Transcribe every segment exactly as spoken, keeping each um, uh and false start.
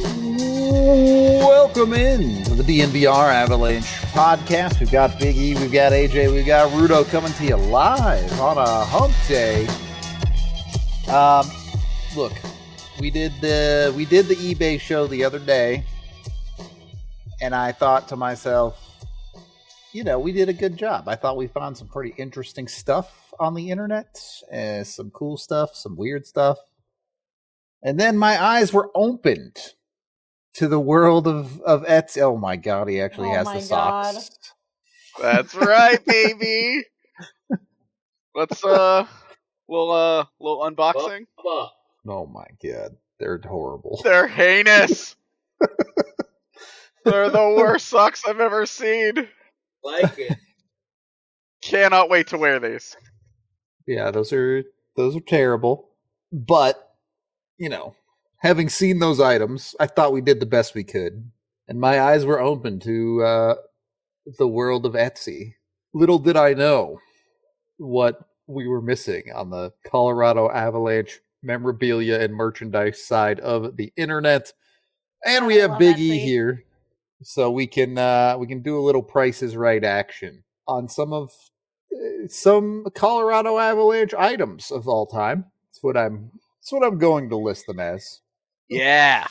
Welcome in to the D N V R Avalanche podcast. We've got Big E, we've got A J, we've got Rudo coming to you live on a hump day. Um, look, we did the we did the eBay show the other day, and I thought to myself, you know, we did a good job. I thought we found some pretty interesting stuff on the internet, uh, some cool stuff, some weird stuff, and then my eyes were opened to the world of, of Etsy. Oh my God, he actually oh has the socks. God. That's right, baby. Let's uh little uh little unboxing. Oh my God, they're horrible. They're heinous. They're the worst socks I've ever seen. Like it. Cannot wait to wear these. Yeah, those are those are terrible. But, you know, having seen those items, I thought we did the best we could. And my eyes were open to uh, the world of Etsy. Little did I know what we were missing on the Colorado Avalanche memorabilia and merchandise side of the internet. And we I have love Big E Etsy. here, so we can uh, we can do a little Price is Right action on some of uh, some Colorado Avalanche items of all time. That's what I'm. That's what I'm going to list them as. Yeah.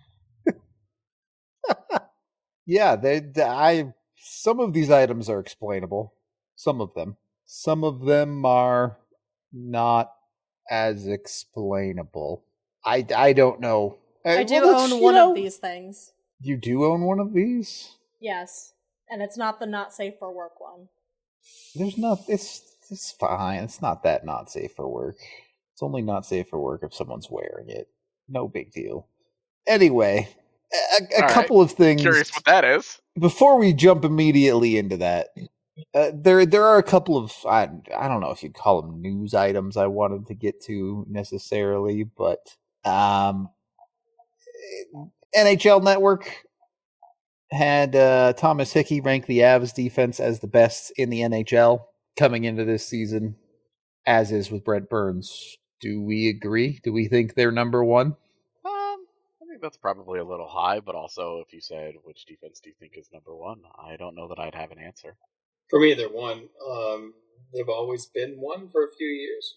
Yeah, they, they. I. Some of these items are explainable. Some of them. Some of them are not as explainable. I. I don't know. I Uh, do well, let's- own you one know, of these things. You do own one of these? Yes. And it's not the not safe for work one. There's not. It's. It's fine. It's not that not safe for work. It's only not safe for work if someone's wearing it. No big deal. Anyway, a, a All couple right. of things. Curious what that is. Before we jump immediately into that, uh, there there are a couple of I I don't know if you'd call them news items I wanted to get to necessarily, but um, N H L Network had uh, Thomas Hickey rank the Avs defense as the best in the N H L coming into this season, as is with Brent Burns. Do we agree? Do we think they're number one? Um, I think that's probably a little high, but also if you said which defense do you think is number one, I don't know that I'd have an answer. For me, they're one. Um, they've always been one for a few years.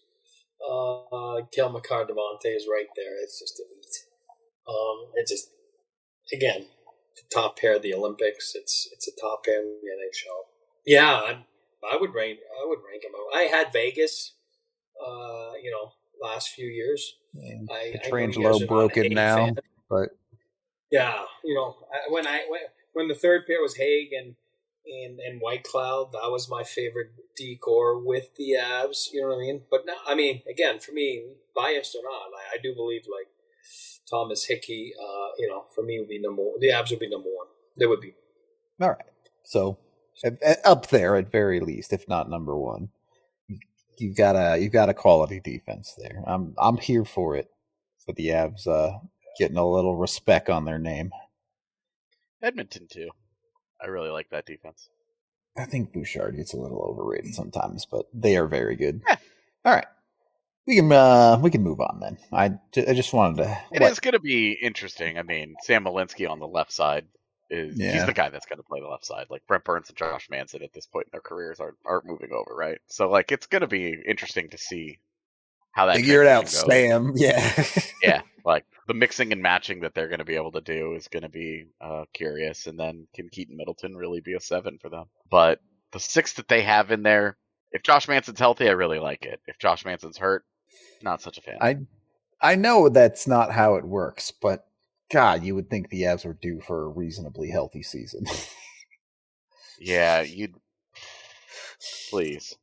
Uh, Kel McCarr Devontae is right there. It's just elite. Um, it's just, again, the top pair of the Olympics. It's it's a top pair in the N H L. Yeah, I, I would rank. I would rank them. I had Vegas. Uh, you know, last few years. And I, I know you Petrangelo guys are not broke a it Hague now, fan. but Yeah, you know, I- when I when, when the third pair was Hague and and and White Cloud, that was my favorite decor with the Avs. You know what I mean? But now, I mean, again, for me, biased or not, I, I do believe like Thomas Hickey. Uh, you know, for me would be number one. The Avs would be number one. They would be. all right. So at- at- up there at very least, if not number one. You've got a you've got a quality defense there. I'm I'm here for it. For the Avs uh, getting a little respect on their name. Edmonton too. I really like that defense. I think Bouchard gets a little overrated sometimes, but they are very good. Yeah. All right, we can uh, we can move on then. I, ju- I just wanted to. It what- is going to be interesting. I mean, Sam Malinsky on the left side is Yeah. he's the guy that's going to play the left side. Like Brent Burns and Josh Manson at this point in their careers aren't aren't moving over, right? So like it's going to be interesting to see how that figure it out, transition goes. Sam. Yeah. Yeah, like the mixing and matching that they're going to be able to do is going to be uh, curious. And then can Keaton Middleton really be a seven for them? But the six that they have in there, if Josh Manson's healthy, I really like it. If Josh Manson's hurt, not such a fan. I I know that's not how it works, but God, you would think the Avs were due for a reasonably healthy season. Yeah, you'd please.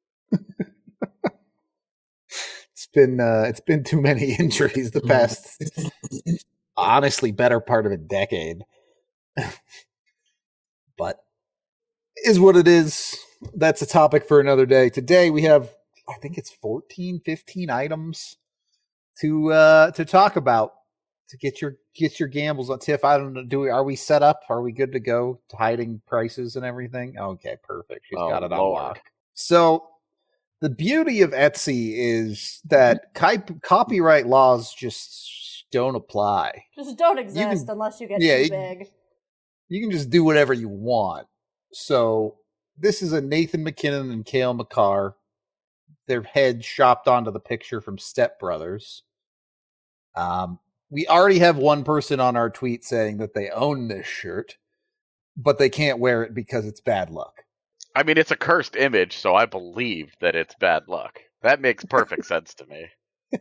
It's been uh, it's been too many injuries the past, honestly, better part of a decade. But is what it is. That's a topic for another day. Today we have, I think it's fourteen, fifteen items to uh, to talk about to get your get your gambles on Tiff. I don't know. Do we are we set up? Are we good to go? Hiding prices and everything. Okay, perfect. She's Oh, got it on Lord. lock. So the beauty of Etsy is that copyright laws just don't apply. Just don't exist can- unless you get yeah, too you- big. You can just do whatever you want. So this is a Nathan McKinnon and Cale Makar. Their heads shopped onto the picture from Step Brothers. Um, we already have one person on our tweet saying that they own this shirt, but they can't wear it because it's bad luck. I mean, it's a cursed image, so I believe that it's bad luck. That makes perfect sense to me.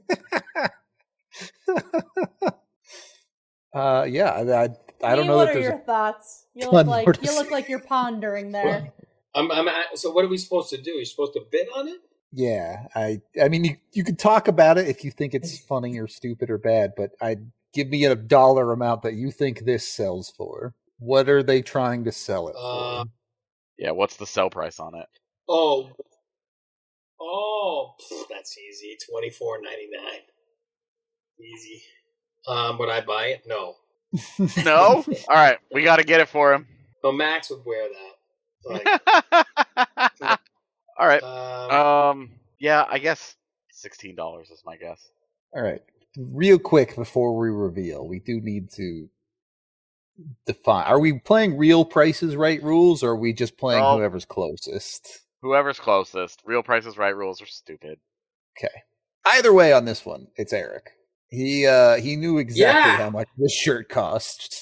uh, yeah, I, I don't Lee, know what that are there's your a thoughts? You ton look more like to you look say. like you're pondering there. I'm, I'm at, so what are we supposed to do? You're supposed to bid on it? Yeah, I I mean you you could talk about it if you think it's funny or stupid or bad, but I give me a dollar amount that you think this sells for. What are they trying to sell it Uh, for? Yeah, what's the sell price on it? Oh, oh, pff, that's easy. Twenty four ninety nine. Easy. Um, would I buy it? No. No? All right, we got to get it for him. No, Max would wear that. Like, All right. um, Um. Yeah, I guess sixteen dollars is my guess. All right. Real quick before we reveal, we do need to define. Are we playing real prices right rules or are we just playing No. whoever's closest? Whoever's closest. Real Price is Right rules are stupid. Okay. Either way on this one, it's Eric. He uh he knew exactly Yeah. how much this shirt cost.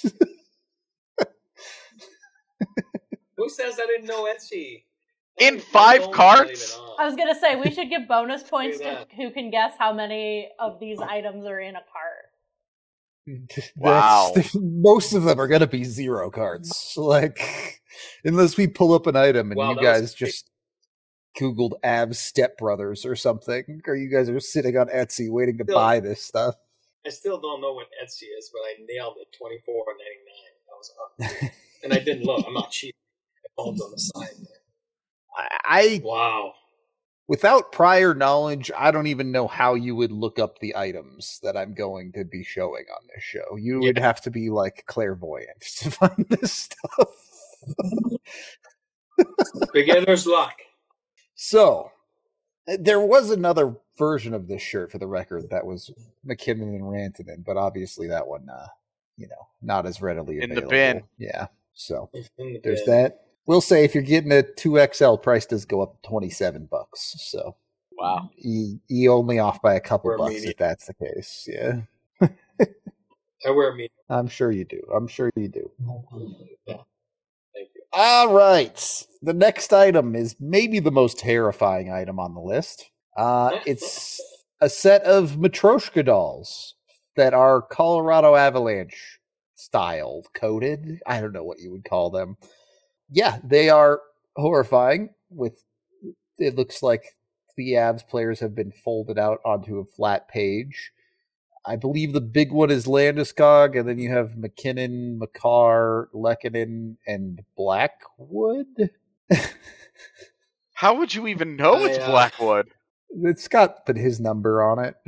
who says I didn't know Etsy? In My five phone carts? wasn't even on. I was gonna say we should give bonus points Look to at who can guess how many of these items are in a cart. That's- Wow. most of them are going to be zero cards. Like, unless we pull up an item and Wow, you that was guys big. just Googled Avs Step Brothers or something, or you guys are sitting on Etsy waiting to Still- buy this stuff. I still don't know what Etsy is, but I nailed it. Twenty four ninety nine. That was up. And I didn't look. I'm not cheap. My phone's on the side there. I, Wow. without prior knowledge, I don't even know how you would look up the items that I'm going to be showing on this show. You would Yeah. have to be like clairvoyant to find this stuff. Beginner's luck. So, uh, there was another version of this shirt, for the record, that was McKinnon and Rantanen, but obviously that one, uh, you know, not as readily In the available. bin. Yeah. So In the there's bin. that. We'll say if you're getting a two X L, price does go up twenty-seven bucks. So Wow. you, you only off by a couple We're bucks medium. if that's the case. Yeah. I wear me. I'm sure you do. I'm sure you do. Yeah. Thank you. All right. The next item is maybe the most terrifying item on the list. Uh, it's a set of Matryoshka dolls that are Colorado Avalanche styled, coated. I don't know what you would call them. Yeah, they are horrifying. With it looks like the Avs players have been folded out onto a flat page. I believe the big one is Landeskog, and then you have McKinnon, Makar, Lehkonen, and Blackwood. How would you even know it's I, uh, Blackwood? It's got put his number on it.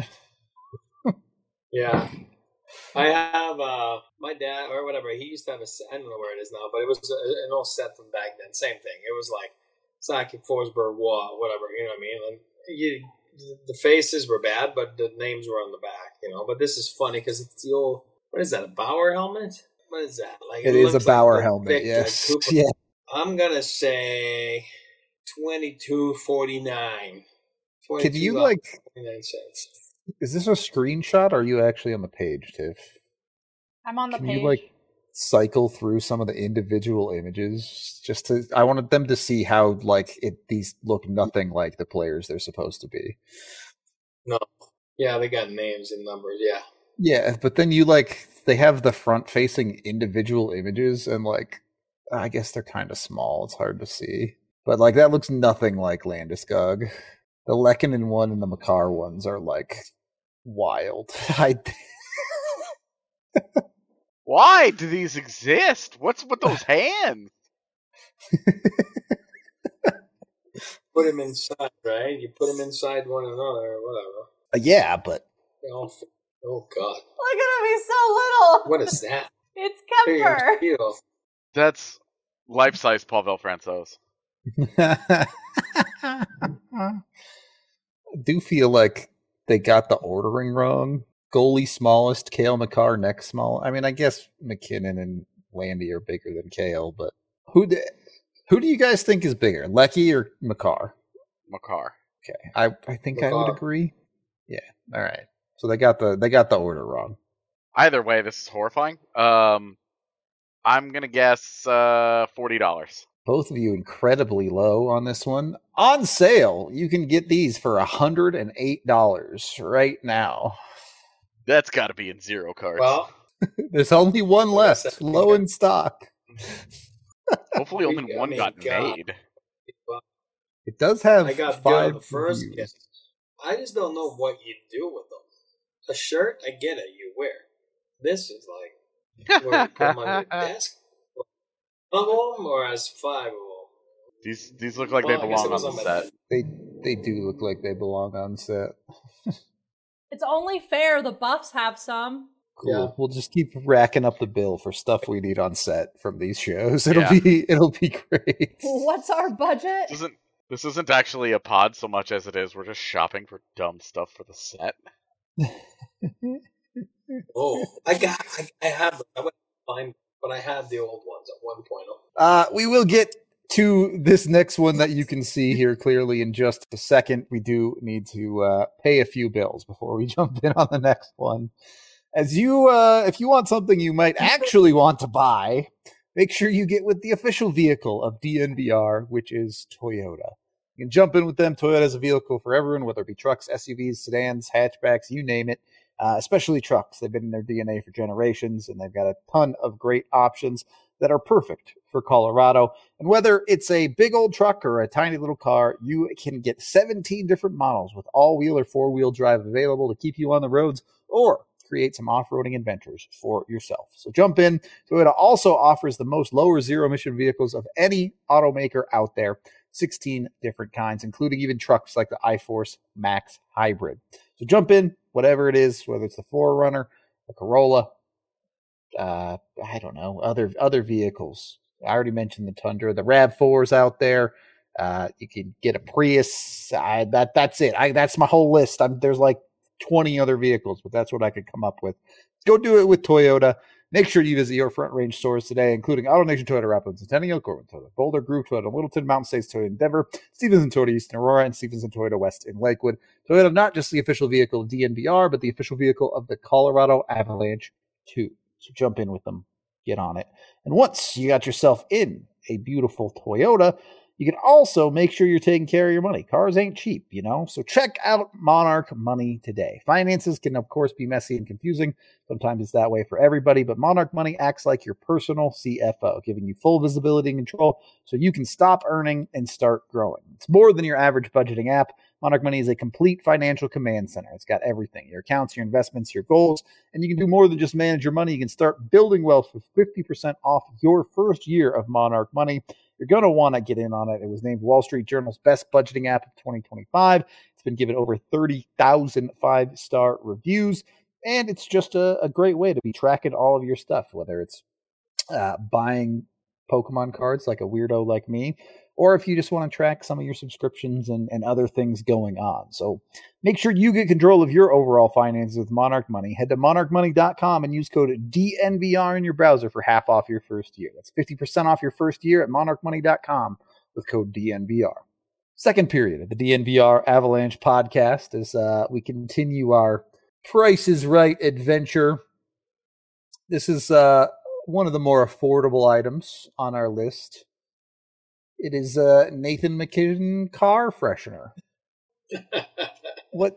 Yeah. I have uh, my dad or whatever. He used to have a set. I don't know where it is now, but it was a, an old set from back then. Same thing. It was like Sakic, Forsberg, Waugh, whatever. You know what I mean? And you, the faces were bad, but the names were on the back. You know. But this is funny because it's the old. What is that? A Bauer helmet? What is that? Like It is a looks like Bauer the helmet, Victor yes. Cooper. Yeah. I'm gonna say twenty-two forty-nine. Can you, like, forty-nine cents? is this a screenshot or are you actually on the page, Tiff? I'm on the Can page. you, like, cycle through some of the individual images just to I wanted them to see how like it these look nothing like the players they're supposed to be. No. Yeah, they got names and numbers. Yeah. Yeah, but then you like they have the front facing individual images and like I guess they're kind of small. It's hard to see. But like that looks nothing like Landeskog. The Lehkonen one and the Makar ones are like wild. I Why do these exist? What's with those hands? Put them inside, right? You put them inside one another or whatever. yeah, but They all fit. Oh, God. Look at him, he's so little. What is that? It's Big Kemper. as steel. That's life-size Pavel Francouz. I do feel like they got the ordering wrong goalie smallest, Cale Makar next small. I mean, I guess McKinnon and Landy are bigger than Cale, but who do, who do you guys think is bigger, Lecky or Makar? Makar. Okay, I I think Makar. I would agree. Yeah. All right. So they got the they got the order wrong. Either way, this is horrifying. Um, I'm gonna guess uh, forty dollars. Both of you incredibly low on this one. On sale, you can get these for one hundred eight dollars right now. That's got to be in zero cards. Well, There's only one Like I left, said, low in stock. Hopefully, only we- I one mean, got God. made. It does have I got five the first reviews. gift. I just don't know what you do with them. A shirt, I get it, you wear. This is like, where you put them on your desk. One of them, or as five of them. These these look like they Well, I guess belong it was on the on my- set. They they do look like they belong on set. It's only fair the Buffs have some. Cool. Yeah. We'll just keep racking up the bill for stuff we need on set from these shows. It'll Yeah. be it'll be great. What's our budget? This isn't this isn't actually a pod so much as it is we're just shopping for dumb stuff for the set. Oh, I got, I, I have, I went to find, but I had the old ones at one point. Uh, we will get to this next one that you can see here clearly in just a second. We do need to uh, pay a few bills before we jump in on the next one. As you, uh, if you want something you might actually want to buy, make sure you get with the official vehicle of D N V R, which is Toyota. You can jump in with them. Toyota is a vehicle for everyone, whether it be trucks, S U Vs, sedans, hatchbacks, you name it. Uh, especially trucks. They've been in their D N A for generations, and they've got a ton of great options that are perfect for Colorado. And whether it's a big old truck or a tiny little car, you can get seventeen different models with all-wheel or four-wheel drive available to keep you on the roads or create some off-roading adventures for yourself. So jump in. Toyota also offers the most lower zero-emission vehicles of any automaker out there, sixteen different kinds, including even trucks like the iForce Max Hybrid. So jump in, whatever it is, whether it's the four runner, the Corolla, uh, I don't know, other other vehicles. I already mentioned the Tundra, the RAV fours out there. Uh, you can get a Prius. I, that that's it. I, that's my whole list. I'm, there's like twenty other vehicles, but that's what I could come up with. Go do it with Toyota. Make sure you visit your Front Range stores today, including AutoNation Toyota Rapids, Centennial, Corbin Toyota, Boulder, Groove Toyota, Littleton, Mountain States Toyota, Denver, Stevenson Toyota East in Aurora, and Stevenson Toyota West in Lakewood. Toyota, not just the official vehicle of D N V R, but the official vehicle of the Colorado Avalanche too. So jump in with them, get on it. And once you got yourself in a beautiful Toyota, you can also make sure you're taking care of your money. Cars ain't cheap, you know? So check out Monarch Money today. Finances can, of course, be messy and confusing. Sometimes it's that way for everybody, but Monarch Money acts like your personal C F O, giving you full visibility and control so you can stop earning and start growing. It's more than your average budgeting app. Monarch Money is a complete financial command center. It's got everything, your accounts, your investments, your goals, and you can do more than just manage your money. You can start building wealth with fifty percent off your first year of Monarch Money. You're going to want to get in on it. It was named Wall Street Journal's best budgeting app of twenty twenty-five. It's been given over thirty thousand five-star reviews, and it's just a, a great way to be tracking all of your stuff, whether it's uh, buying Pokemon cards like a weirdo like me, or if you just want to track some of your subscriptions and, and other things going on. So make sure you get control of your overall finances with Monarch Money. Head to monarch money dot com and use code D N V R in your browser for half off your first year. That's fifty percent off your first year at monarch money dot com with code D N V R. Second period of the D N V R Avalanche podcast as uh, we continue our Price is Right adventure. This is uh, one of the more affordable items on our list. It is a Nathan MacKinnon car freshener. What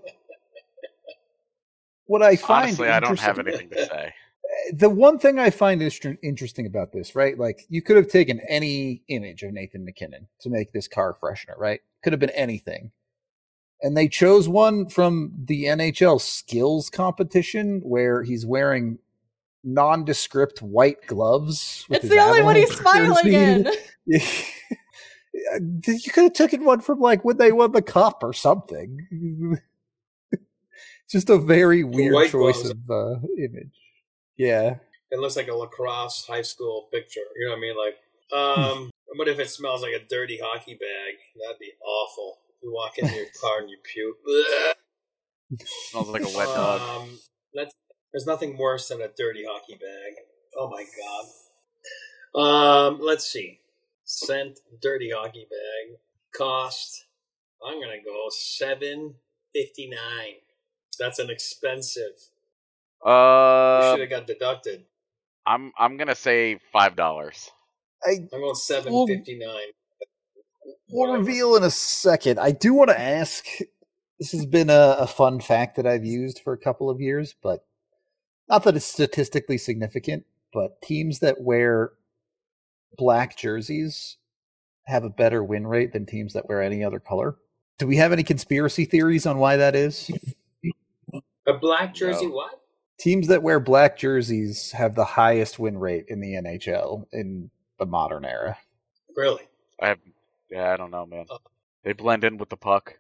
what I find Honestly, I don't have interesting- anything to say. The one thing I find inter- interesting about this, right? Like, you could have taken any image of Nathan MacKinnon to make this car freshener, right? Could have been anything. And they chose one from the N H L skills competition where he's wearing nondescript white gloves. with It's his the only one he's Avalanche smiling jersey. in. You could have taken one from like when they won the cup or something. Just a very weird white choice gloves. of uh, image. Yeah. It looks like a lacrosse high school picture. You know what I mean? Like, um, what if it smells like a dirty hockey bag? That'd be awful. You walk into your car and you puke. Smells like a wet dog. Um, let's There's nothing worse than a dirty hockey bag. Oh my god. Um, let's see. Scent dirty hockey bag cost. I'm gonna go seven fifty nine. That's an expensive. You Uh, should have got deducted. I'm I'm gonna say five dollars. I I'm going seven fifty nine. will reveal in a second. I do want to ask. This has been a, a fun fact that I've used for a couple of years, but not that it's statistically significant. But teams that wear black jerseys have a better win rate than teams that wear any other color. Do we have any conspiracy theories on why that is? A black jersey, No. what? Teams that wear black jerseys have the highest win rate in the N H L in the modern era. Really? I have, yeah, I don't know, man. They blend in with the puck.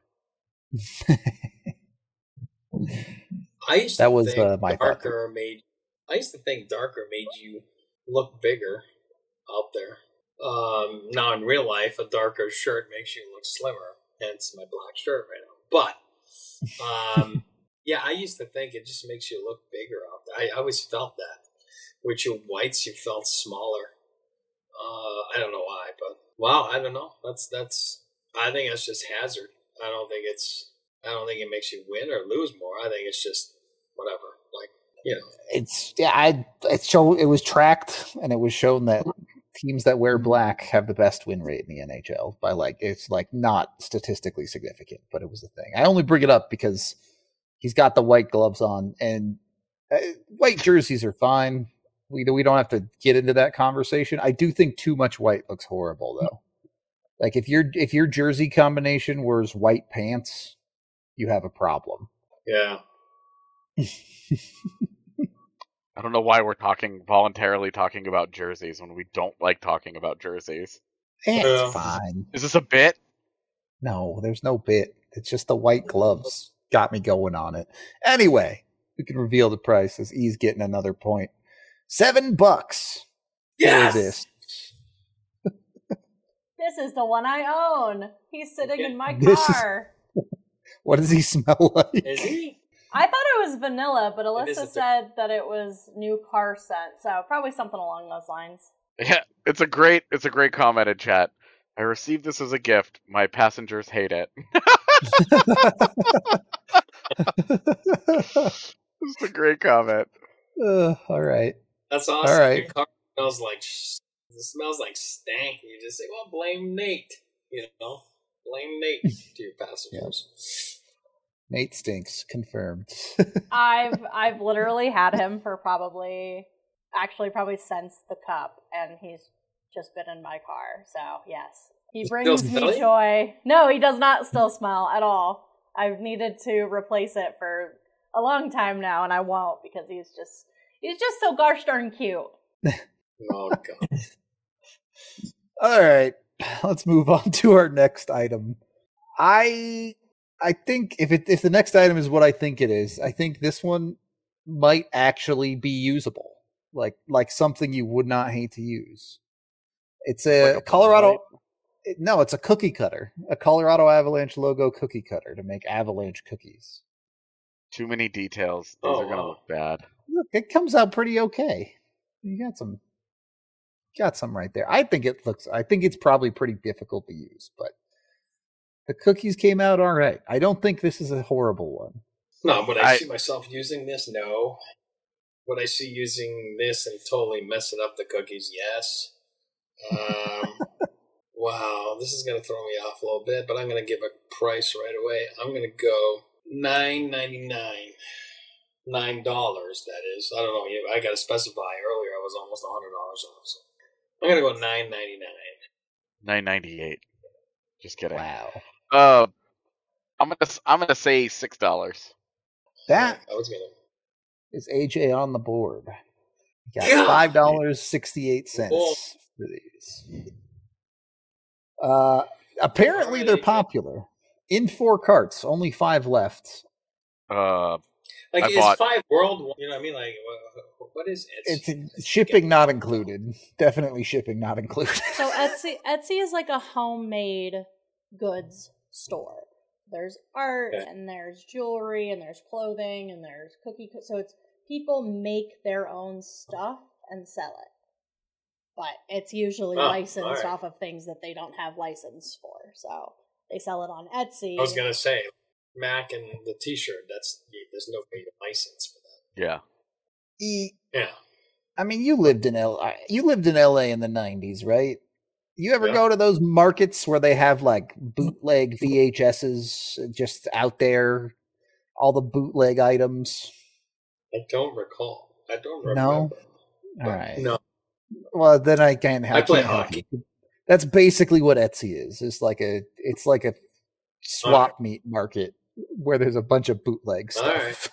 I used to That was, think uh, my thought. darker made. I used to think darker made you look bigger out there. Um, now in real life, a darker shirt makes you look slimmer. Hence my black shirt right now. But um, yeah, I used to think it just makes you look bigger out there. I, I always felt that. With your whites, you felt smaller. Uh, I don't know why, but wow, I don't know. That's that's. I think that's just hazard. I don't think it's. I don't think it makes you win or lose more. I think it's just whatever. Like you know, It's yeah, I it's show it was tracked and it was shown that teams that wear black have the best win rate in the N H L by like it's like not statistically significant, but it was a thing. I only bring it up because he's got the white gloves on and uh, white jerseys are fine. We we don't have to get into that conversation. I do think too much white looks horrible though. Like if your if your jersey combination wears white pants, you have a problem. yeah. I don't know why we're talking voluntarily talking about jerseys when we don't like talking about jerseys. It's Yeah. fine. Is this a bit? No, there's no bit. It's just the white gloves got me going on it. Anyway, we can reveal the price as E's getting another point. Seven bucks Yes. for this. This is the one I own. He's sitting in my This is- car. What does he smell like? Is he? I thought it was vanilla, but It is Alyssa a bit- said that it was new car scent, so probably something along those lines. Yeah, it's a great it's a great comment in chat. I received this as a gift. My passengers hate it. It's a great comment. Uh, all right. That's awesome. All right. Your car smells like sh- it smells like stank. You just say, "Well, blame Nate." You know, blame Nate to your passengers. Nate stinks. Confirmed. I've I've literally had him for probably, actually probably since the cup, and he's just been in my car. So yes, he brings smell me it? joy. No, he does not still smell at all. I've needed to replace it for a long time now, and I won't because he's just he's just so gosh darn cute. Oh god. All right. Let's move on to our next item. I I think if it if the next item is what I think it is, I think this one might actually be usable. Like like something you would not hate to use. It's a, Like a Colorado Light? it- no, it's a cookie cutter. A Colorado Avalanche logo cookie cutter to make Avalanche cookies. Too many details. These Oh, are gonna wow. look bad. Look, it comes out pretty okay. You got some got some right there. I think it looks I think it's probably pretty difficult to use, but the cookies came out all right. I don't think this is a horrible one. No, would I, I- see myself using this? No. Would I see using this and totally messing up the cookies? Yes. Um, wow, this is going to throw me off a little bit, but I'm going to give a price right away. I'm going to go nine ninety-nine. Nine dollars, that is. I don't know. I got to specify. Earlier, I was almost a hundred dollars off. So I'm going to go nine ninety-nine. Nine ninety eight. Just kidding. Wow. Uh, I'm gonna s- I'm gonna say six dollars. That I was going to. is A J on the board. Got Yeah. five dollars sixty-eight cents Cool. for these. Uh, apparently they're Alrighty. popular. In four carts, only five left. Uh, Like, I is bought- five world? You know what I mean? Like, what, what is it? It's shipping not included. Definitely shipping not included. So Etsy Etsy is like a homemade goods store. There's art Okay. and there's jewelry and there's clothing and there's cookie. Co- so it's people make their own stuff and sell it. But it's usually Oh, licensed alright. off of things that they don't have license for. So they sell it on Etsy. I was gonna say, Mac and the T-shirt. That's there's no way to license for that. Yeah. E- Yeah. I mean, you lived in L. You lived in L A in the nineties, right? You ever Yeah. go to those markets where they have like bootleg V H S's just out there, all the bootleg items? I don't recall. I don't remember. No? But All right. No. Well, then I can't. I, I play can't help hockey. you. That's basically what Etsy is. It's like a. It's like a swap meet market where there's a bunch of bootleg All stuff.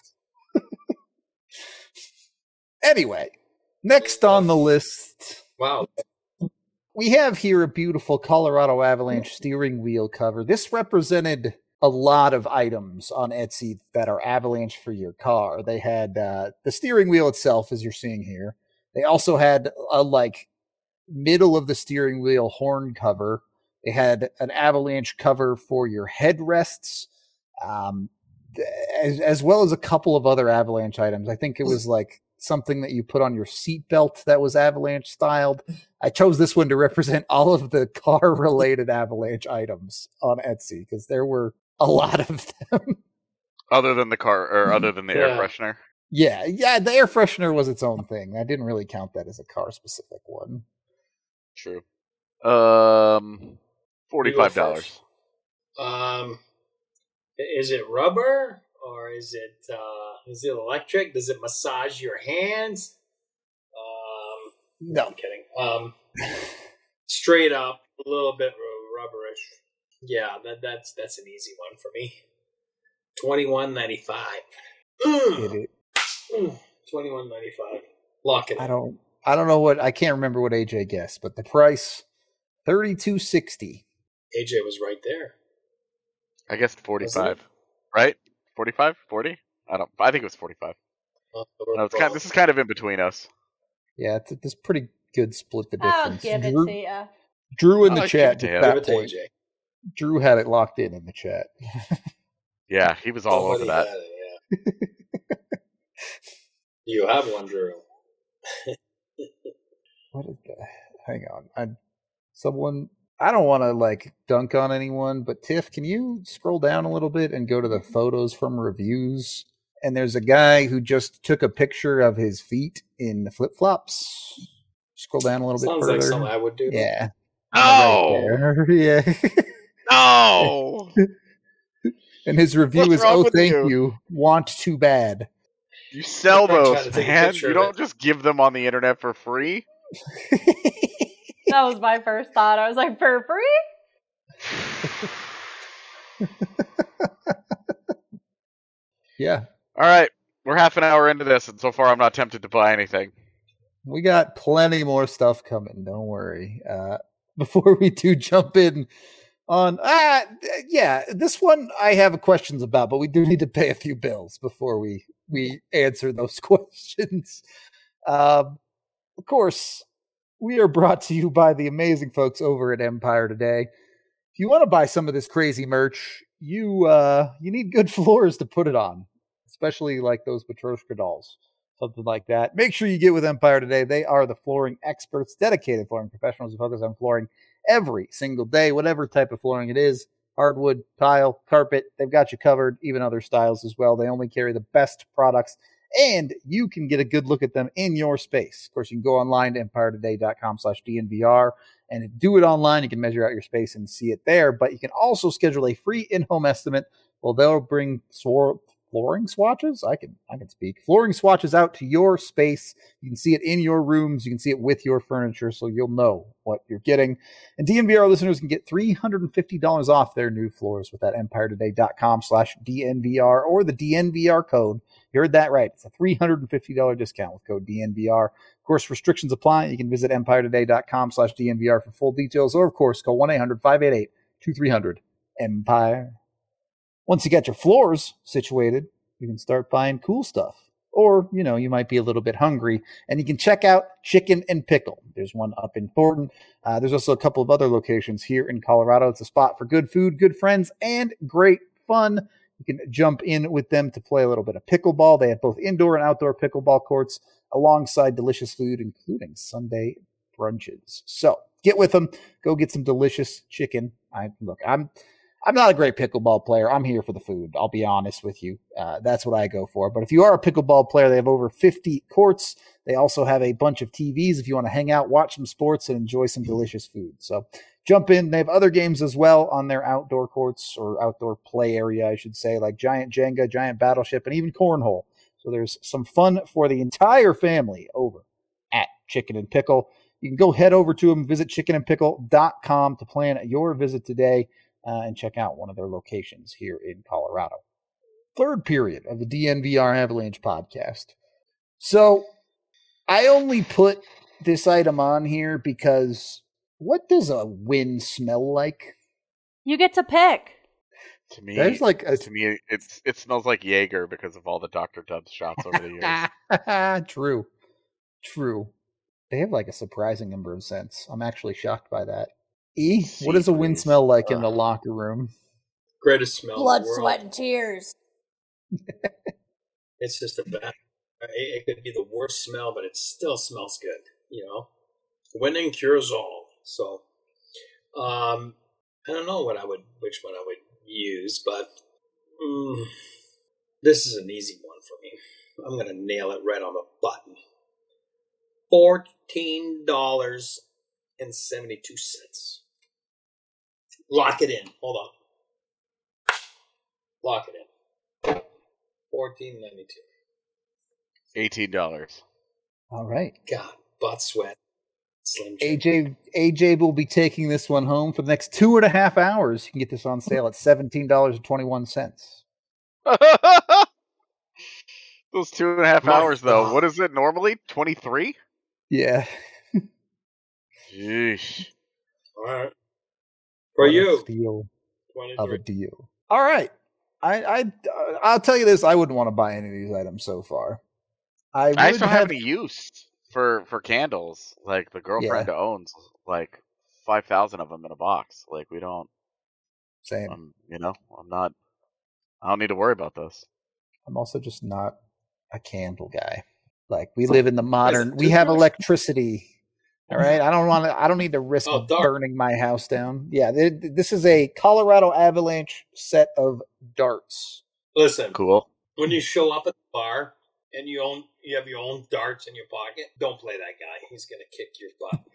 Anyway, next on the list, Wow. we have here a beautiful Colorado Avalanche steering wheel cover. This represented a lot of items on Etsy that are Avalanche for your car. They had uh, the steering wheel itself, as you're seeing here. They also had a like middle of the steering wheel horn cover. They had an Avalanche cover for your headrests, um, as, as well as a couple of other Avalanche items. I think it was like something that you put on your seatbelt that was Avalanche styled. I chose this one to represent all of the car related Avalanche items on Etsy because there were a lot of them. Other than the car, or other than the air Yeah. freshener. Yeah, yeah, the air freshener was its own thing. I didn't really count that as a car specific one. True. Um, forty-five dollars. Um, is it rubber or is it uh, is it electric? Does it massage your hands? Um, No. I'm kidding. Um, straight up, a little bit ru- rubberish. Yeah, that that's that's an easy one for me. Twenty-one ninety-five. It, it, Twenty-one ninety-five. Lock it in. I don't I don't know what I can't remember what A J guessed, but the price thirty-two sixty. A J was right there. I guess forty-five. Right? forty-five? forty? I don't. I think it was forty-five. Uh, No, it's kind. This is kind of in between us. Yeah, it's it's pretty good split the I'll difference. give it Drew, to you. Drew in I'll the give chat it to at him. that Give it to point. A J. Drew had it locked in in the chat. Yeah, he was all over Somebody that. had it, yeah. You have one, Drew. What is that? Hang on. I someone I don't want to like dunk on anyone, but Tiff, can you scroll down a little bit and go to the photos from reviews? And there's a guy who just took a picture of his feet in flip flops. Scroll down a little Sounds bit further. like something I would do. Yeah. No! Right there. Yeah. No! And his review What's is, wrong "Oh, with thank you?" you. Want too bad." You sell I'm trying those, to take a man. picture You of don't it. just give them on the internet for free. That was my first thought. I was like, for free? Yeah. All right, we're half an hour into this, and so far I'm not tempted to buy anything. We got plenty more stuff coming. Don't worry. Uh, before we do jump in on, ah, yeah, this one I have questions about, but we do need to pay a few bills before we we answer those questions. Um, of course, we are brought to you by the amazing folks over at Empire Today. If you want to buy some of this crazy merch, you uh, you need good floors to put it on, especially like those Matryoshka dolls. Something like that. Make sure you get with Empire Today. They are the flooring experts, dedicated flooring professionals who focus on flooring every single day, whatever type of flooring it is. Hardwood, tile, carpet, they've got you covered, even other styles as well. They only carry the best products, and you can get a good look at them in your space. Of course, you can go online to empire today dot com slash D N V R and do it online. You can measure out your space and see it there, but you can also schedule a free in-home estimate. Well, they'll bring swor- flooring swatches. I can I can speak. Flooring swatches out to your space. You can see it in your rooms. You can see it with your furniture, so you'll know what you're getting. And D N V R listeners can get three hundred fifty dollars off their new floors with that empire today dot com slash D N V R or the D N V R code. You heard that right. It's a three hundred fifty dollars discount with code D N V R. Of course, restrictions apply. You can visit empire today dot com slash D N V R for full details, or of course, call one eight hundred five eight eight two three zero zero Empire. Once you got your floors situated, you can start buying cool stuff. Or, you know, you might be a little bit hungry, and you can check out Chicken and Pickle. There's one up in Thornton. Uh, there's also a couple of other locations here in Colorado. It's a spot for good food, good friends, and great fun. You can jump in with them to play a little bit of pickleball. They have both indoor and outdoor pickleball courts alongside delicious food, including Sunday brunches. So get with them. Go get some delicious chicken. I look, I'm I'm not a great pickleball player. I'm here for the food. I'll be honest with you. Uh, that's what I go for. But if you are a pickleball player, they have over fifty courts. They also have a bunch of T Vs if you want to hang out, watch some sports, and enjoy some delicious food. So jump in. They have other games as well on their outdoor courts or outdoor play area, I should say, like Giant Jenga, Giant Battleship, and even Cornhole. So there's some fun for the entire family over at Chicken and Pickle. You can go head over to them, visit chicken and pickle dot com to plan your visit today. Uh, and check out one of their locations here in Colorado. Third period of the D N V R Avalanche podcast. So I only put this item on here because what does a win smell like? You get to pick. To me, There's like a... to me, it's it smells like Jaeger because of all the Doctor Dubs shots over the years. True. True. They have like a surprising number of scents. I'm actually shocked by that. E, what does a wind smell like in the locker room? Greatest smell Blood, in the world. sweat, and tears. It's just a bad. It could be the worst smell, but it still smells good. You know, winning cures all. So, um, I don't know what I would, which one I would use, but mm, this is an easy one for me. I'm gonna nail it right on the button. Fourteen dollars and seventy-two cents. Lock it in. Hold on. Lock it in. Fourteen ninety two. Eighteen dollars. All right. God, butt sweat. Slim Jim. A J A J will be taking this one home for the next two and a half hours. You can get this on sale at seventeen dollars and twenty-one cents. Those two and a half My hours, though. God. What is it normally? Twenty-three? Yeah. Jeez. All right. For What a you. steal of a twenty-three. deal. All right. I, I, uh, I'll tell you this. I wouldn't want to buy any of these items so far. I would I just don't have have any use for for candles. Like the girlfriend owns like five thousand of them in a box. Like we don't. same. Um, you know, I'm not. I don't need to worry about this. I'm also just not a candle guy. Like we live in the modern. it We have toothbrush? electricity. All right. I don't want to. I don't need to risk Oh, dark. burning my house down. Yeah. th- This is a Colorado Avalanche set of darts. Listen, Cool. when you show up at the bar and you own you have your own darts in your pocket, don't play that guy. He's gonna kick your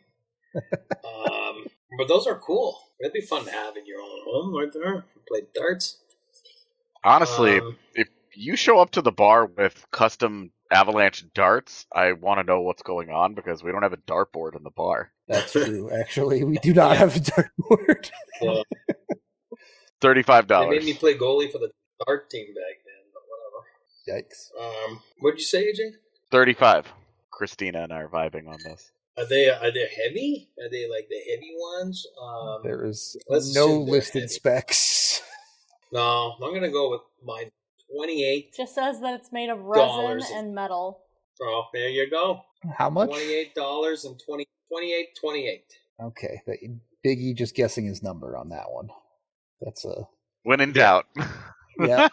butt. um, but those are cool. It'd be fun to have in your own home right there. Play darts. Honestly, Um, if you show up to the bar with custom Avalanche darts, I want to know what's going on because we don't have a dartboard in the bar. That's true. Actually, we do not have a dartboard. well, Thirty-five they dollars. made me play goalie for the dart team back then, but whatever. Yikes. Um, what'd you say, A J? Thirty-five. Christina and I are vibing on this. Are they are they heavy? Are they like the heavy ones? Um, There is let's no assume they're listed heavy. specs. no, I'm gonna go with my twenty-eight. Just says that it's made of resin Dollars. and metal. Oh, there you go. How much? Twenty-eight dollars and twenty twenty-eight twenty-eight. Okay, but Big E just guessing his number on that one. That's a When in doubt. yeah.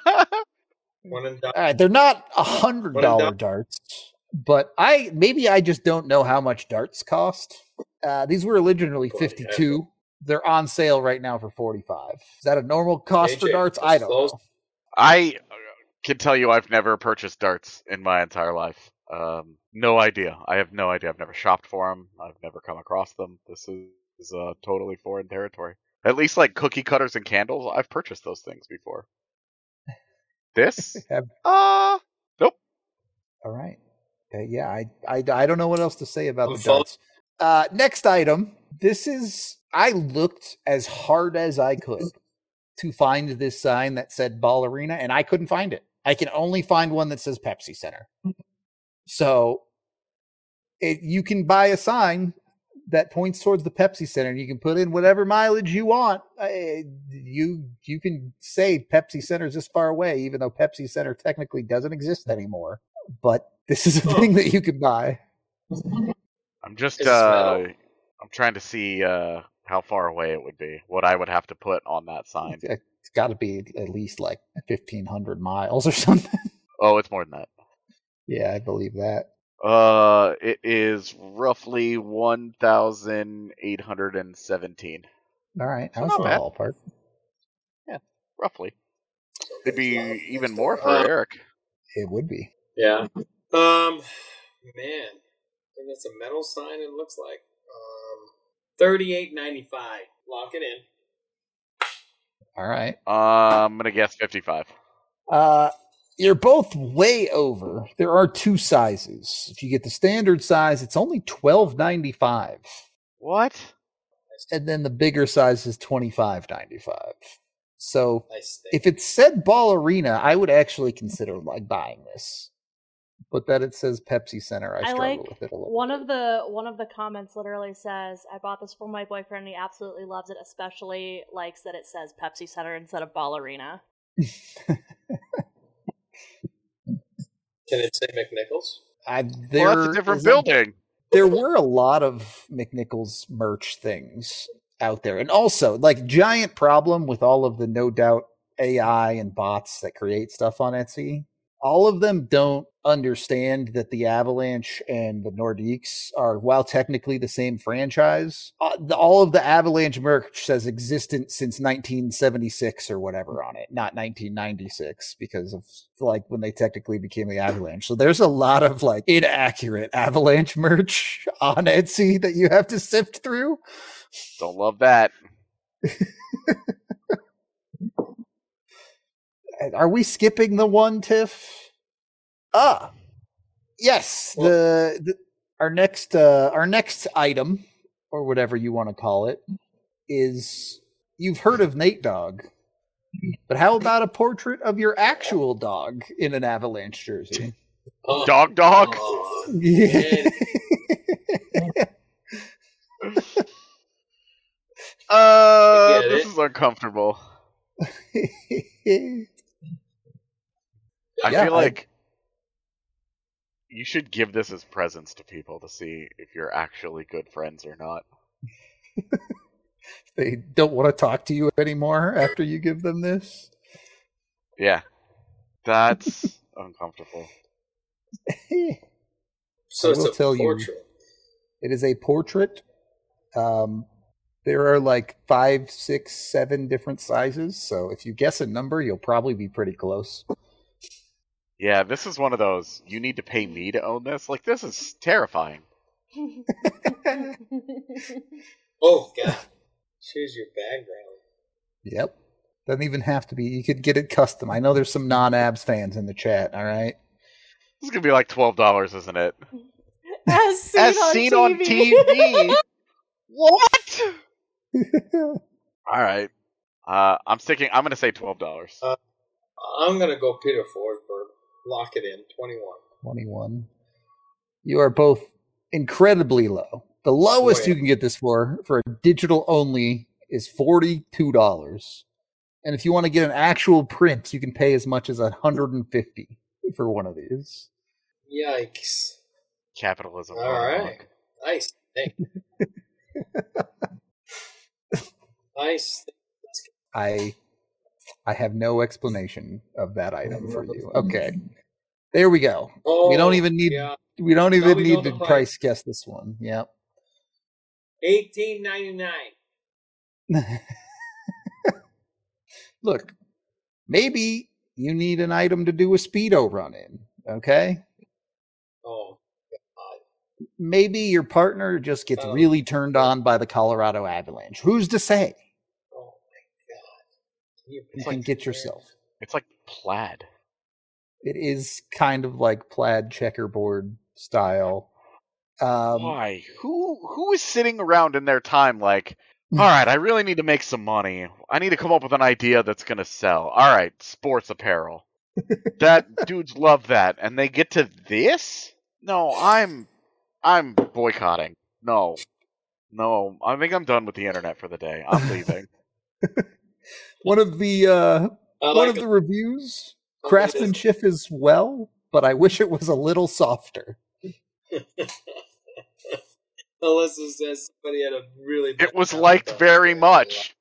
One and done. All right, they're not a hundred What a dollar dump. darts, but I maybe I just don't know how much darts cost. Uh, these were originally Boy, fifty two. They're on sale right now for forty five. Is that a normal cost for A J, darts? let's I don't close. know. I uh, can tell you I've never purchased darts in my entire life. Um, no idea. I have no idea. I've never shopped for them. I've never come across them. This is, is uh, totally foreign territory. At least like cookie cutters and candles, I've purchased those things before. This? Have- Uh, nope. All right. Uh, yeah, I, I I don't know what else to say about I'm the follow- darts. Uh, next item. This is I looked as hard as I could to find this sign that said Ball Arena, and I couldn't find it. I can only find one that says Pepsi Center. So it, you can buy a sign that points towards the Pepsi Center. You can put in whatever mileage you want. Uh, you you can say Pepsi Center is this far away, even though Pepsi Center technically doesn't exist anymore. But this is a Oh. thing that you can buy. I'm just Is it uh, metal? I'm trying to see uh how far away it would be, what I would have to put on that sign. It's got to be at least like fifteen hundred miles or something. Oh, it's more than that. Yeah, I believe that. Uh, it is roughly one thousand eight hundred seventeen. All right, So that was not the bad. ballpark. Yeah, roughly. It'd be Wow. even more for Uh, Eric. It would be. Yeah. Um, man, and that's a metal sign. It looks like um, thirty-eight ninety-five. Lock it in. All right. Uh, I'm gonna guess fifty-five. Uh, you're both way over. There are two sizes. If you get the standard size, it's only twelve ninety-five, What? and then the bigger size is twenty-five ninety-five. So Nice thing. if it said Ballerina, I would actually consider like buying this. But that it says Pepsi Center, I, I struggle like with it a little. one of the one of the comments literally says, "I bought this for my boyfriend. And he absolutely loves it. Especially likes that it says Pepsi Center instead of Ballerina." Can it say McNichols? I, Well, there that's a different is building. there were a lot of McNichols merch things out there. And also, like, giant problem with all of the no doubt A I and bots that create stuff on Etsy. All of them don't understand that the Avalanche and the Nordiques are, while technically the same franchise, uh, the, all of the Avalanche merch says existent since nineteen seventy-six or whatever on it, not nineteen ninety-six, because of like when they technically became the Avalanche. So there's a lot of like inaccurate Avalanche merch on Etsy that you have to sift through. Don't love that. Are we skipping the one, Tiff? Ah, yes. The, the our next uh, our next item, or whatever you want to call it, is you've heard of Nate Dogg, but how about a portrait of your actual dog in an Avalanche jersey? Oh, Dog dog? oh, Yeah. man. Uh, get this it. is uncomfortable. I Yeah, feel I- like you should give this as presents to people to see if you're actually good friends or not. They don't want to talk to you anymore after you give them this. Yeah. That's uncomfortable. So I it's will a tell you- portrait. It is a portrait. Um, there are like five, six, seven different sizes. So if you guess a number, you'll probably be pretty close. Yeah, this is one of those, you need to pay me to own this? Like, this is terrifying. Oh God! Choose your background. Yep. Doesn't even have to be. You could get it custom. I know there's some non-abs fans in the chat. All right. This is going to be like twelve dollars, isn't it? As seen, As on, seen T V. on T V! What? Alright. Uh, I'm sticking, I'm going to say twelve dollars. Uh, I'm gonna go Peter Forsberg. Lock it in. Twenty-one. twenty-one. You are both incredibly low. The lowest Oh, yeah. you can get this for, for a digital only, is forty-two dollars. And if you want to get an actual print, you can pay as much as one hundred fifty dollars for one of these. Yikes! Capitalism. All going right. on. Nice. Thank you. Nice. I I have no explanation of that item for you. Okay. There we go. Oh, we don't even need yeah. we don't even we need know to the price. price. guess this one. Yep. Eighteen ninety nine. Look, maybe you need an item to do a speedo run in, okay? Oh, Maybe your partner just gets Oh. really turned on by the Colorado Avalanche. Who's to say? oh my God! Can you, You please can get share? yourself. It's like plaid. It is kind of like plaid checkerboard style. Um, Why? Who who is sitting around in their time like, all right, I really need to make some money. I need to come up with an idea that's going to sell. All right, sports apparel. That dudes love that, and they get to this? No, I'm I'm boycotting. No. No, I think I'm done with the internet for the day. I'm leaving. one of the uh, I one like of it. the reviews, Oh, craftsmanship is well, but I wish it was a little softer. Alyssa says somebody had a really bad It was time liked with that. very much.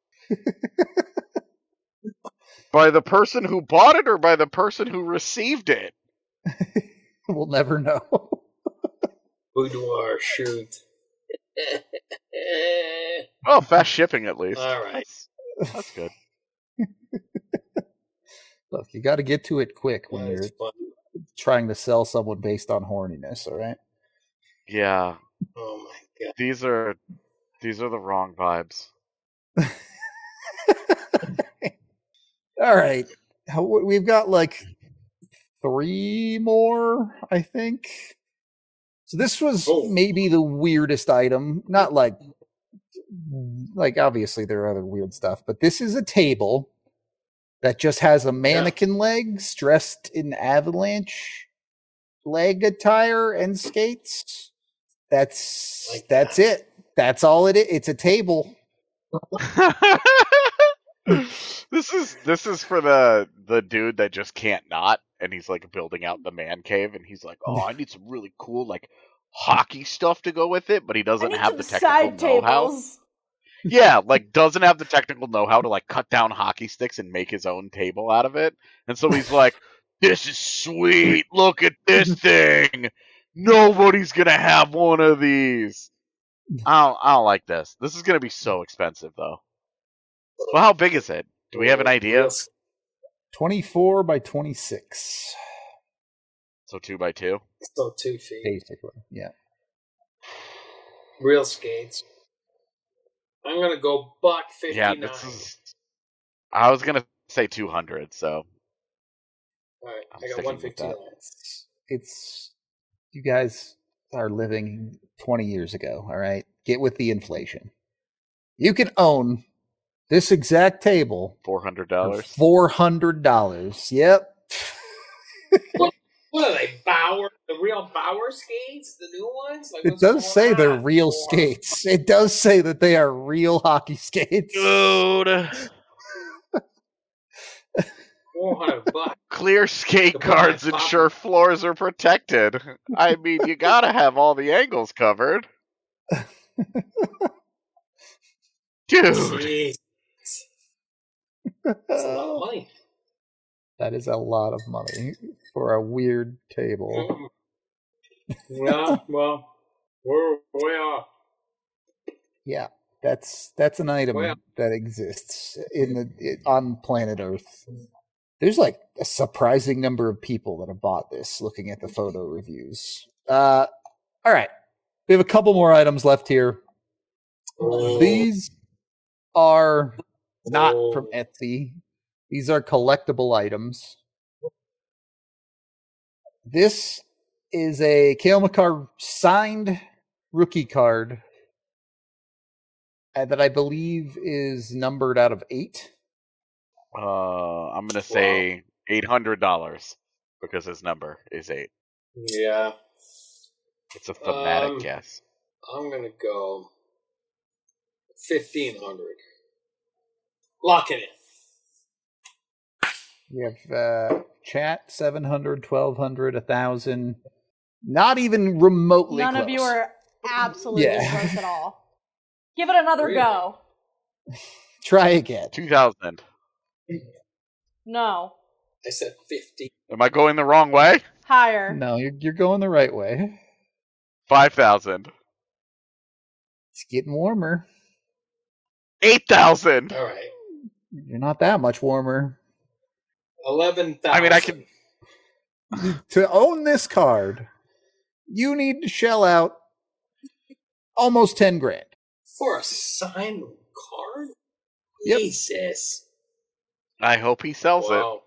By the person who bought it or by the person who received it? We'll never know. Boudoir shoot. Oh, fast shipping at least. All right. That's, that's good. Look, you got to get to it quick when That you're is fun. trying to sell someone based on horniness. All right. Yeah, Oh my god. these are these are the wrong vibes. All right. How- We've got like three more, I think. So this was Oh. maybe the weirdest item. Not like, like obviously there are other weird stuff, but this is a table that just has a mannequin legs dressed in Avalanche leg attire and skates. That's Like that's that. it. That's all it is. It's a table. this is this is for the the dude that just can't not, and he's like building out the man cave, and he's like, oh, I need some really cool like hockey stuff to go with it, but he I doesn't need have some the side technical know-how. tables. Yeah, like doesn't have the technical know-how to like cut down hockey sticks and make his own table out of it, and so he's like, this is sweet. Look at this thing. Nobody's gonna have one of these. I don't, I don't like this. This is gonna be so expensive though. Well, how big is it? Do we have an idea? Real, twenty-four by twenty-six, So two by two. so two feet. basically. Yeah. Real skates. I'm gonna go buck fifty Yeah, nine. this is. I was gonna say two hundred. So All right, I'm I got sticking one with fifty that. nine. It's, it's you guys are living twenty years ago. All right, get with the inflation. You can own this exact table four hundred for dollars. four hundred dollars. Yep. What are they? Bauer, the real Bauer skates, the new ones. Like, It what's does going say they're on? real Four- skates. It does say that they are real hockey skates. Dude, Four hundred bucks. clear skate To put my cards top- ensure floors are protected. I mean, you gotta have all the angles covered, dude. Jeez, that's a lot of money. That is a lot of money for a weird table. Yeah, well, we're way off. Yeah, that's that's an item Well- that exists in the it, on planet Earth. There's like a surprising number of people that have bought this. Looking at the photo reviews. Uh, all right, we have a couple more items left here. These are not from Etsy. These are collectible items. This is a Cale Makar signed rookie card uh, that I believe is numbered out of eight. Uh, I'm gonna say eight hundred dollars because his number is eight. Yeah, It's a thematic Um, guess. I'm gonna go fifteen hundred. Lock it in. We have uh, chat seven hundred, twelve hundred, one thousand. Not even remotely None close. of you are absolutely Yeah. close at all. Give it another Really? go. Try again. Two thousand. No. I said fifty. Am I going the wrong way? Higher. No, you're, you're going the right way. Five thousand. It's getting warmer. Eight thousand. All right, You're not that much warmer. eleven thousand. I mean, I can. To own this card, you need to shell out almost ten grand. for a signed card. Yep. Jesus. I hope he sells it. Wow.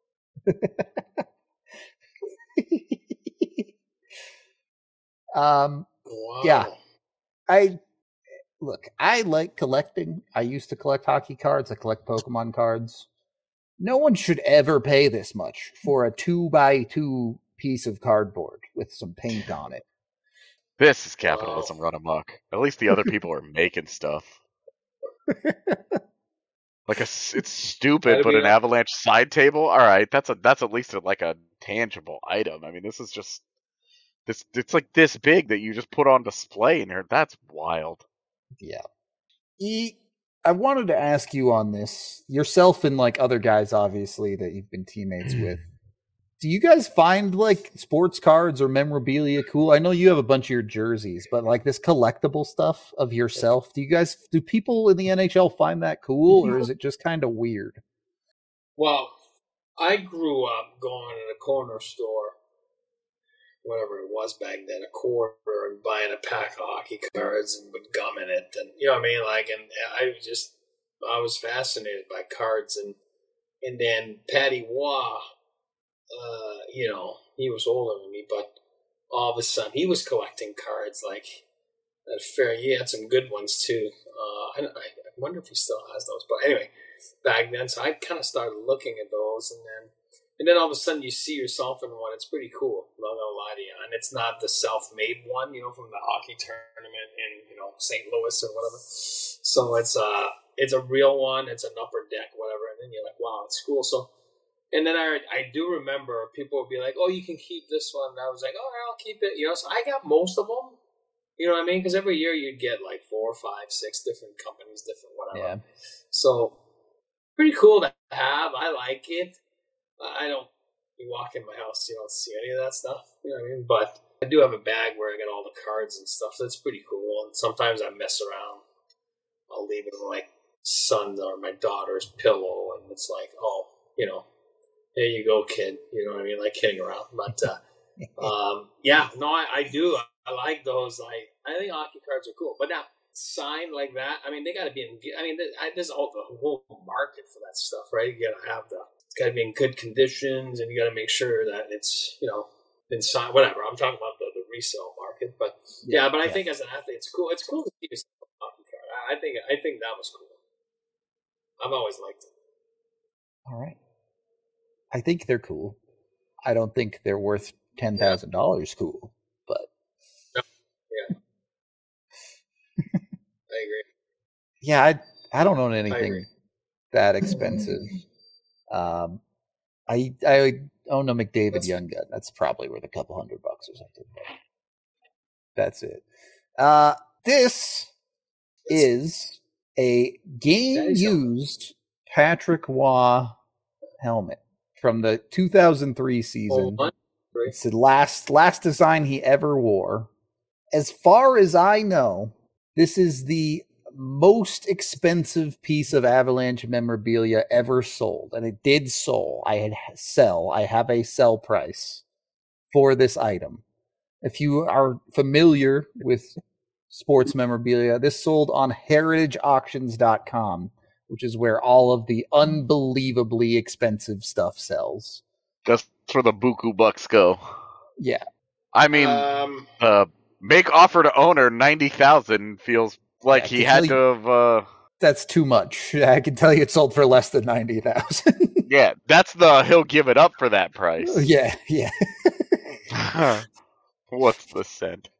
um, Wow. Yeah. I look, I like collecting. I used to collect hockey cards. I collect Pokemon cards. No one should ever pay this much for a two by two piece of cardboard with some paint on it. This is capitalism run amok. At least the other people are making stuff. Like a, s- it's stupid, Gotta but be an right. avalanche side table. All right, that's a that's at least a, like a tangible item. I mean, this is just This it's like this big that you just put on display in here. That's wild. Yeah. E, I wanted to ask you on this, yourself and like other guys, obviously, that you've been teammates with. Do you guys find like sports cards or memorabilia cool? I know you have a bunch of your jerseys, but like this collectible stuff of yourself, do you guys, do people in the N H L find that cool, or is it just kind of weird? Well, I grew up going to the corner store, whatever it was back then, a quarter, and buying a pack of hockey cards and with gum in it, and you know what I mean. Like, and I was just, I was fascinated by cards, and and then Patty Waugh, uh, you know, he was older than me, but all of a sudden he was collecting cards. Like, that fair, he had some good ones too. Uh, I, I wonder if he still has those, but anyway, back then, so I kind of started looking at those, and then. And then all of a sudden you see yourself in one. It's pretty cool. I'm not gonna lie to you. And it's not the self-made one, you know, from the hockey tournament in, you know, Saint Louis or whatever. So it's uh it's a real one. It's an upper deck, whatever. And then you're like, wow, it's cool. So, and then I I do remember people would be like, oh, you can keep this one. And I was like, all right, I'll keep it. You know, so I got most of them. You know what I mean? Because every year you'd get like four, five, six different companies, different whatever. Yeah. So pretty cool to have. I like it. I don't, you walk in my house, you don't see any of that stuff, you know what I mean? But I do have a bag where I got all the cards and stuff, so it's pretty cool. And sometimes I mess around. I'll leave it in my son's or my daughter's pillow, and it's like, oh, you know, there you go, kid. You know what I mean? Like kidding around. But, uh, um, yeah, no, I, I do. I, I like those. Like, I think hockey cards are cool. But now, signed like that, I mean, they got to be in, I mean, there's all the whole market for that stuff, right? You got to have the, it's got to be in good conditions, and you got to make sure that it's, you know, been signed, whatever. I'm talking about the, the resale market, but yeah, yeah but I yeah. think as an athlete, it's cool. It's cool to see yourself a hockey card. I, I think, I think that was cool. I've always liked it. All right. I think they're cool. I don't think they're worth ten thousand dollars yeah. cool, but. No. Yeah. I agree. Yeah, I I don't own anything that expensive. Um, I I own a McDavid That's Young Gun. That's probably worth a couple hundred bucks or something. That's it. Uh, this is a game-used Patrick Waugh helmet from the two thousand three season. Oh, it's the last last design he ever wore. As far as I know, this is the most expensive piece of Avalanche memorabilia ever sold, and it did sell. I had sell. I have a sell price for this item. If you are familiar with sports memorabilia, this sold on heritage auctions dot com, which is where all of the unbelievably expensive stuff sells. That's where the buku bucks go. Yeah. I mean, um, uh, make offer to owner ninety thousand feels like yeah, he had to have. Uh... That's too much. I can tell you it sold for less than ninety thousand. Yeah, that's the he'll give it up for that price. Yeah, yeah. What's the scent?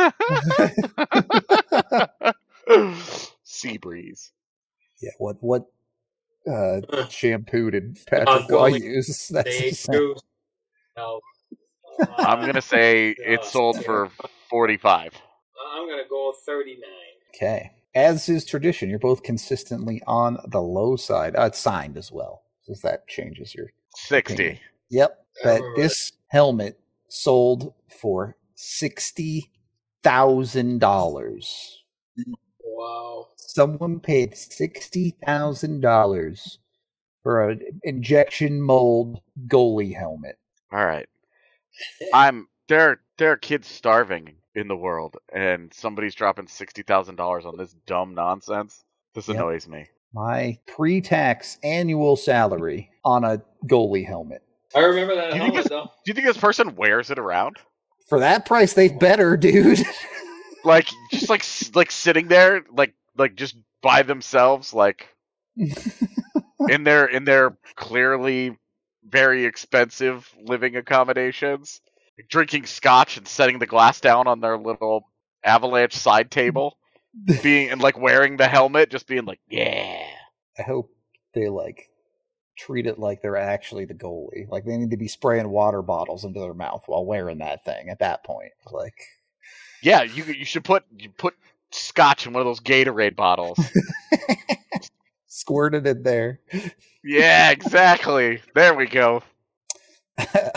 Sea breeze. Yeah, what what uh, shampoo did Patrick Waugh use? That's the no. I'm gonna say it sold for forty-five. I'm gonna go thirty-nine. Okay. As is tradition, you're both consistently on the low side. Uh, it's signed as well, since that changes your sixty. Opinion. Yep. But this helmet sold for sixty thousand dollars. Wow. Someone paid sixty thousand dollars for an injection mold goalie helmet. All right. I'm there. There are kids starving in the world, and somebody's dropping sixty thousand dollars on this dumb nonsense. This yep. annoys me. My pre-tax annual salary on a goalie helmet. I remember that do you helmet, think this, though. Do you think this person wears it around? For that price, they better, dude. Like, just like like sitting there, like like just by themselves, like in their in their clearly very expensive living accommodations, drinking scotch and setting the glass down on their little Avalanche side table, being and like wearing the helmet, just being like, yeah. I hope they like treat it like they're actually the goalie. Like they need to be spraying water bottles into their mouth while wearing that thing at that point. Like, yeah, you you should put you put scotch in one of those Gatorade bottles. Squirt it in there. Yeah, exactly. There we go. uh,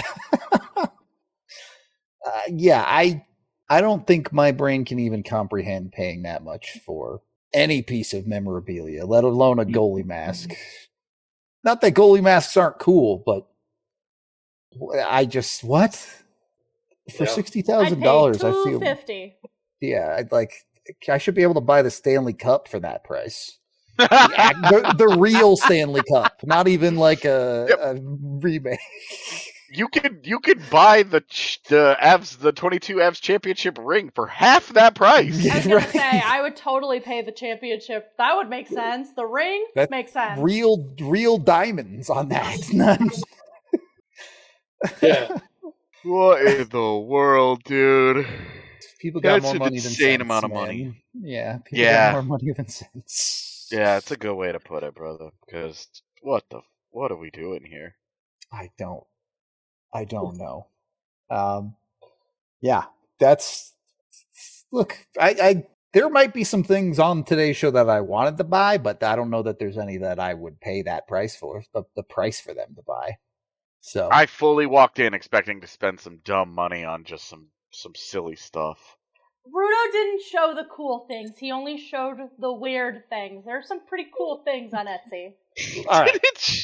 yeah, I I don't think my brain can even comprehend paying that much for any piece of memorabilia, let alone a goalie mask. Not that goalie masks aren't cool, but I just what for Yeah. sixty thousand dollars? I feel fifty. Yeah, I'd like I should be able to buy the Stanley Cup for that price. The, act- the, the real Stanley Cup, not even like a, Yep. a remake. You could you could buy the ch- the Avs the twenty-two Avs championship ring for half that price. I was gonna Right. say I would totally pay the championship. That would make sense. The ring That- makes sense. Real, real diamonds on that. None- Yeah. What in the world, dude? People got That's more an money than insane sense, amount of man. money. Yeah, people Yeah. got more money than sense. Yeah, it's a good way to put it, brother. Because what the what are we doing here? I don't. I don't know. Um, yeah, that's. Look, I, I there might be some things on today's show that I wanted to buy, but I don't know that there's any that I would pay that price for. The, the price for them to buy. So I fully walked in expecting to spend some dumb money on just some some silly stuff. Rudo didn't show the cool things. He only showed the weird things. There's some pretty cool things on Etsy. all right.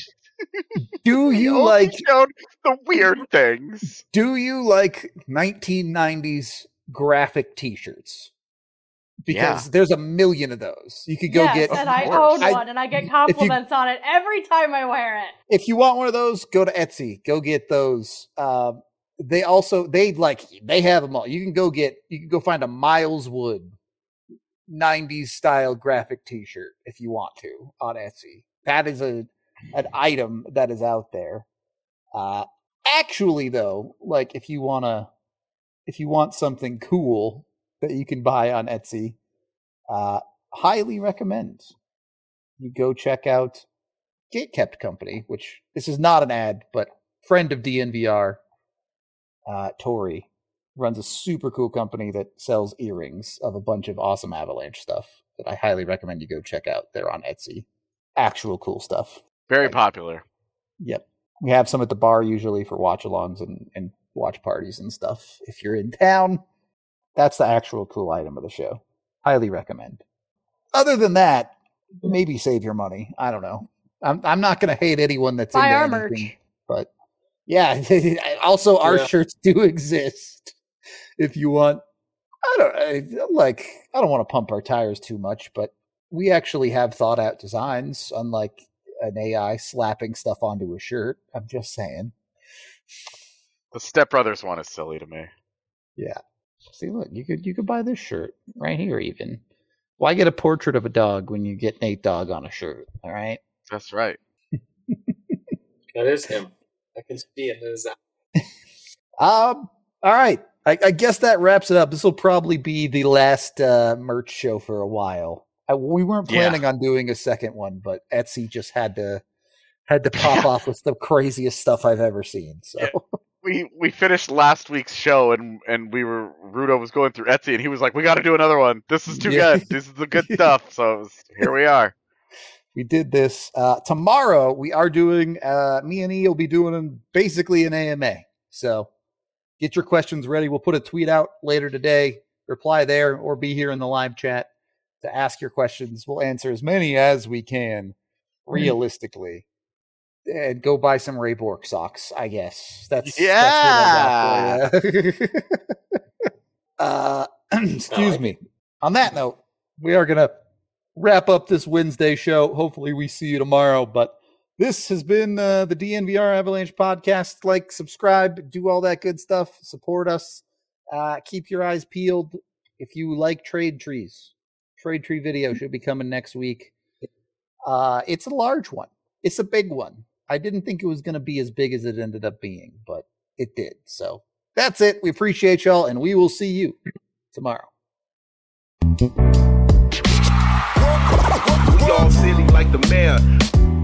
Do He you only like? showed the weird things? Do you like nineteen nineties graphic T-shirts? Because Yeah. there's a million of those. You could go yes, get. and I course. own I- one, and I get compliments on it every time I wear it. If you want one of those, go to Etsy. Go get those. Um, they also they like they have them all. You can go get. You can go find a Miles Wood nineties style graphic T-shirt if you want to on Etsy. That is a an item that is out there. Uh, actually, though, like if you wanna, if you want something cool that you can buy on Etsy, uh, highly recommend you go check out Gatekept Company, which this is not an ad, but friend of D N V R, uh, Tori, runs a super cool company that sells earrings of a bunch of awesome Avalanche stuff that I highly recommend you go check out. They're on Etsy. Actual cool stuff. Very popular. Yep. We have some at the bar usually for watch-alongs and, and watch parties and stuff. If you're in town, that's the actual cool item of the show. Highly recommend. Other than that, maybe save your money. I don't know. I'm I'm not going to hate anyone that's Buy into our anything, merch. but yeah. Also, our Yeah. shirts do exist. If you want, I don't I, like. I don't want to pump our tires too much, but we actually have thought out designs, unlike an A I slapping stuff onto a shirt. I'm just saying. The Step Brothers one is silly to me. Yeah. See, look, you could you could buy this shirt right here. Even why get a portrait of a dog when you get Nate Dogg on a shirt? All right. That's right. That is him. I can see it in his eye. Um. All right. I, I guess that wraps it up. This will probably be the last uh, merch show for a while. I, we weren't Yeah. planning on doing a second one, but Etsy just had to had to pop off with the craziest stuff I've ever seen. So Yeah. We we finished last week's show and and we were Rudo was going through Etsy and he was like, "We got to do another one. This is too Yeah. good. This is the good stuff." So it was, here we are. we did this. Uh, tomorrow we are doing. Uh, me and E will be doing an- basically an A M A. So get your questions ready. We'll put a tweet out later today. Reply there or be here in the live chat to ask your questions. We'll answer as many as we can realistically. And go buy some Ray Bork socks, I guess. That's Yeah. That's what I got for you. uh, excuse me. On that note, we are gonna wrap up this Wednesday show. Hopefully, we see you tomorrow. But this has been uh, the D N V R Avalanche podcast. Like, subscribe, do all that good stuff. Support us. Uh, keep your eyes peeled. If you like trade trees, trade tree video should be coming next week. Uh, it's a large one. It's a big one. I didn't think it was going to be as big as it ended up being, but it did. So that's it. We appreciate y'all, and we will see you tomorrow. We all silly like the mayor.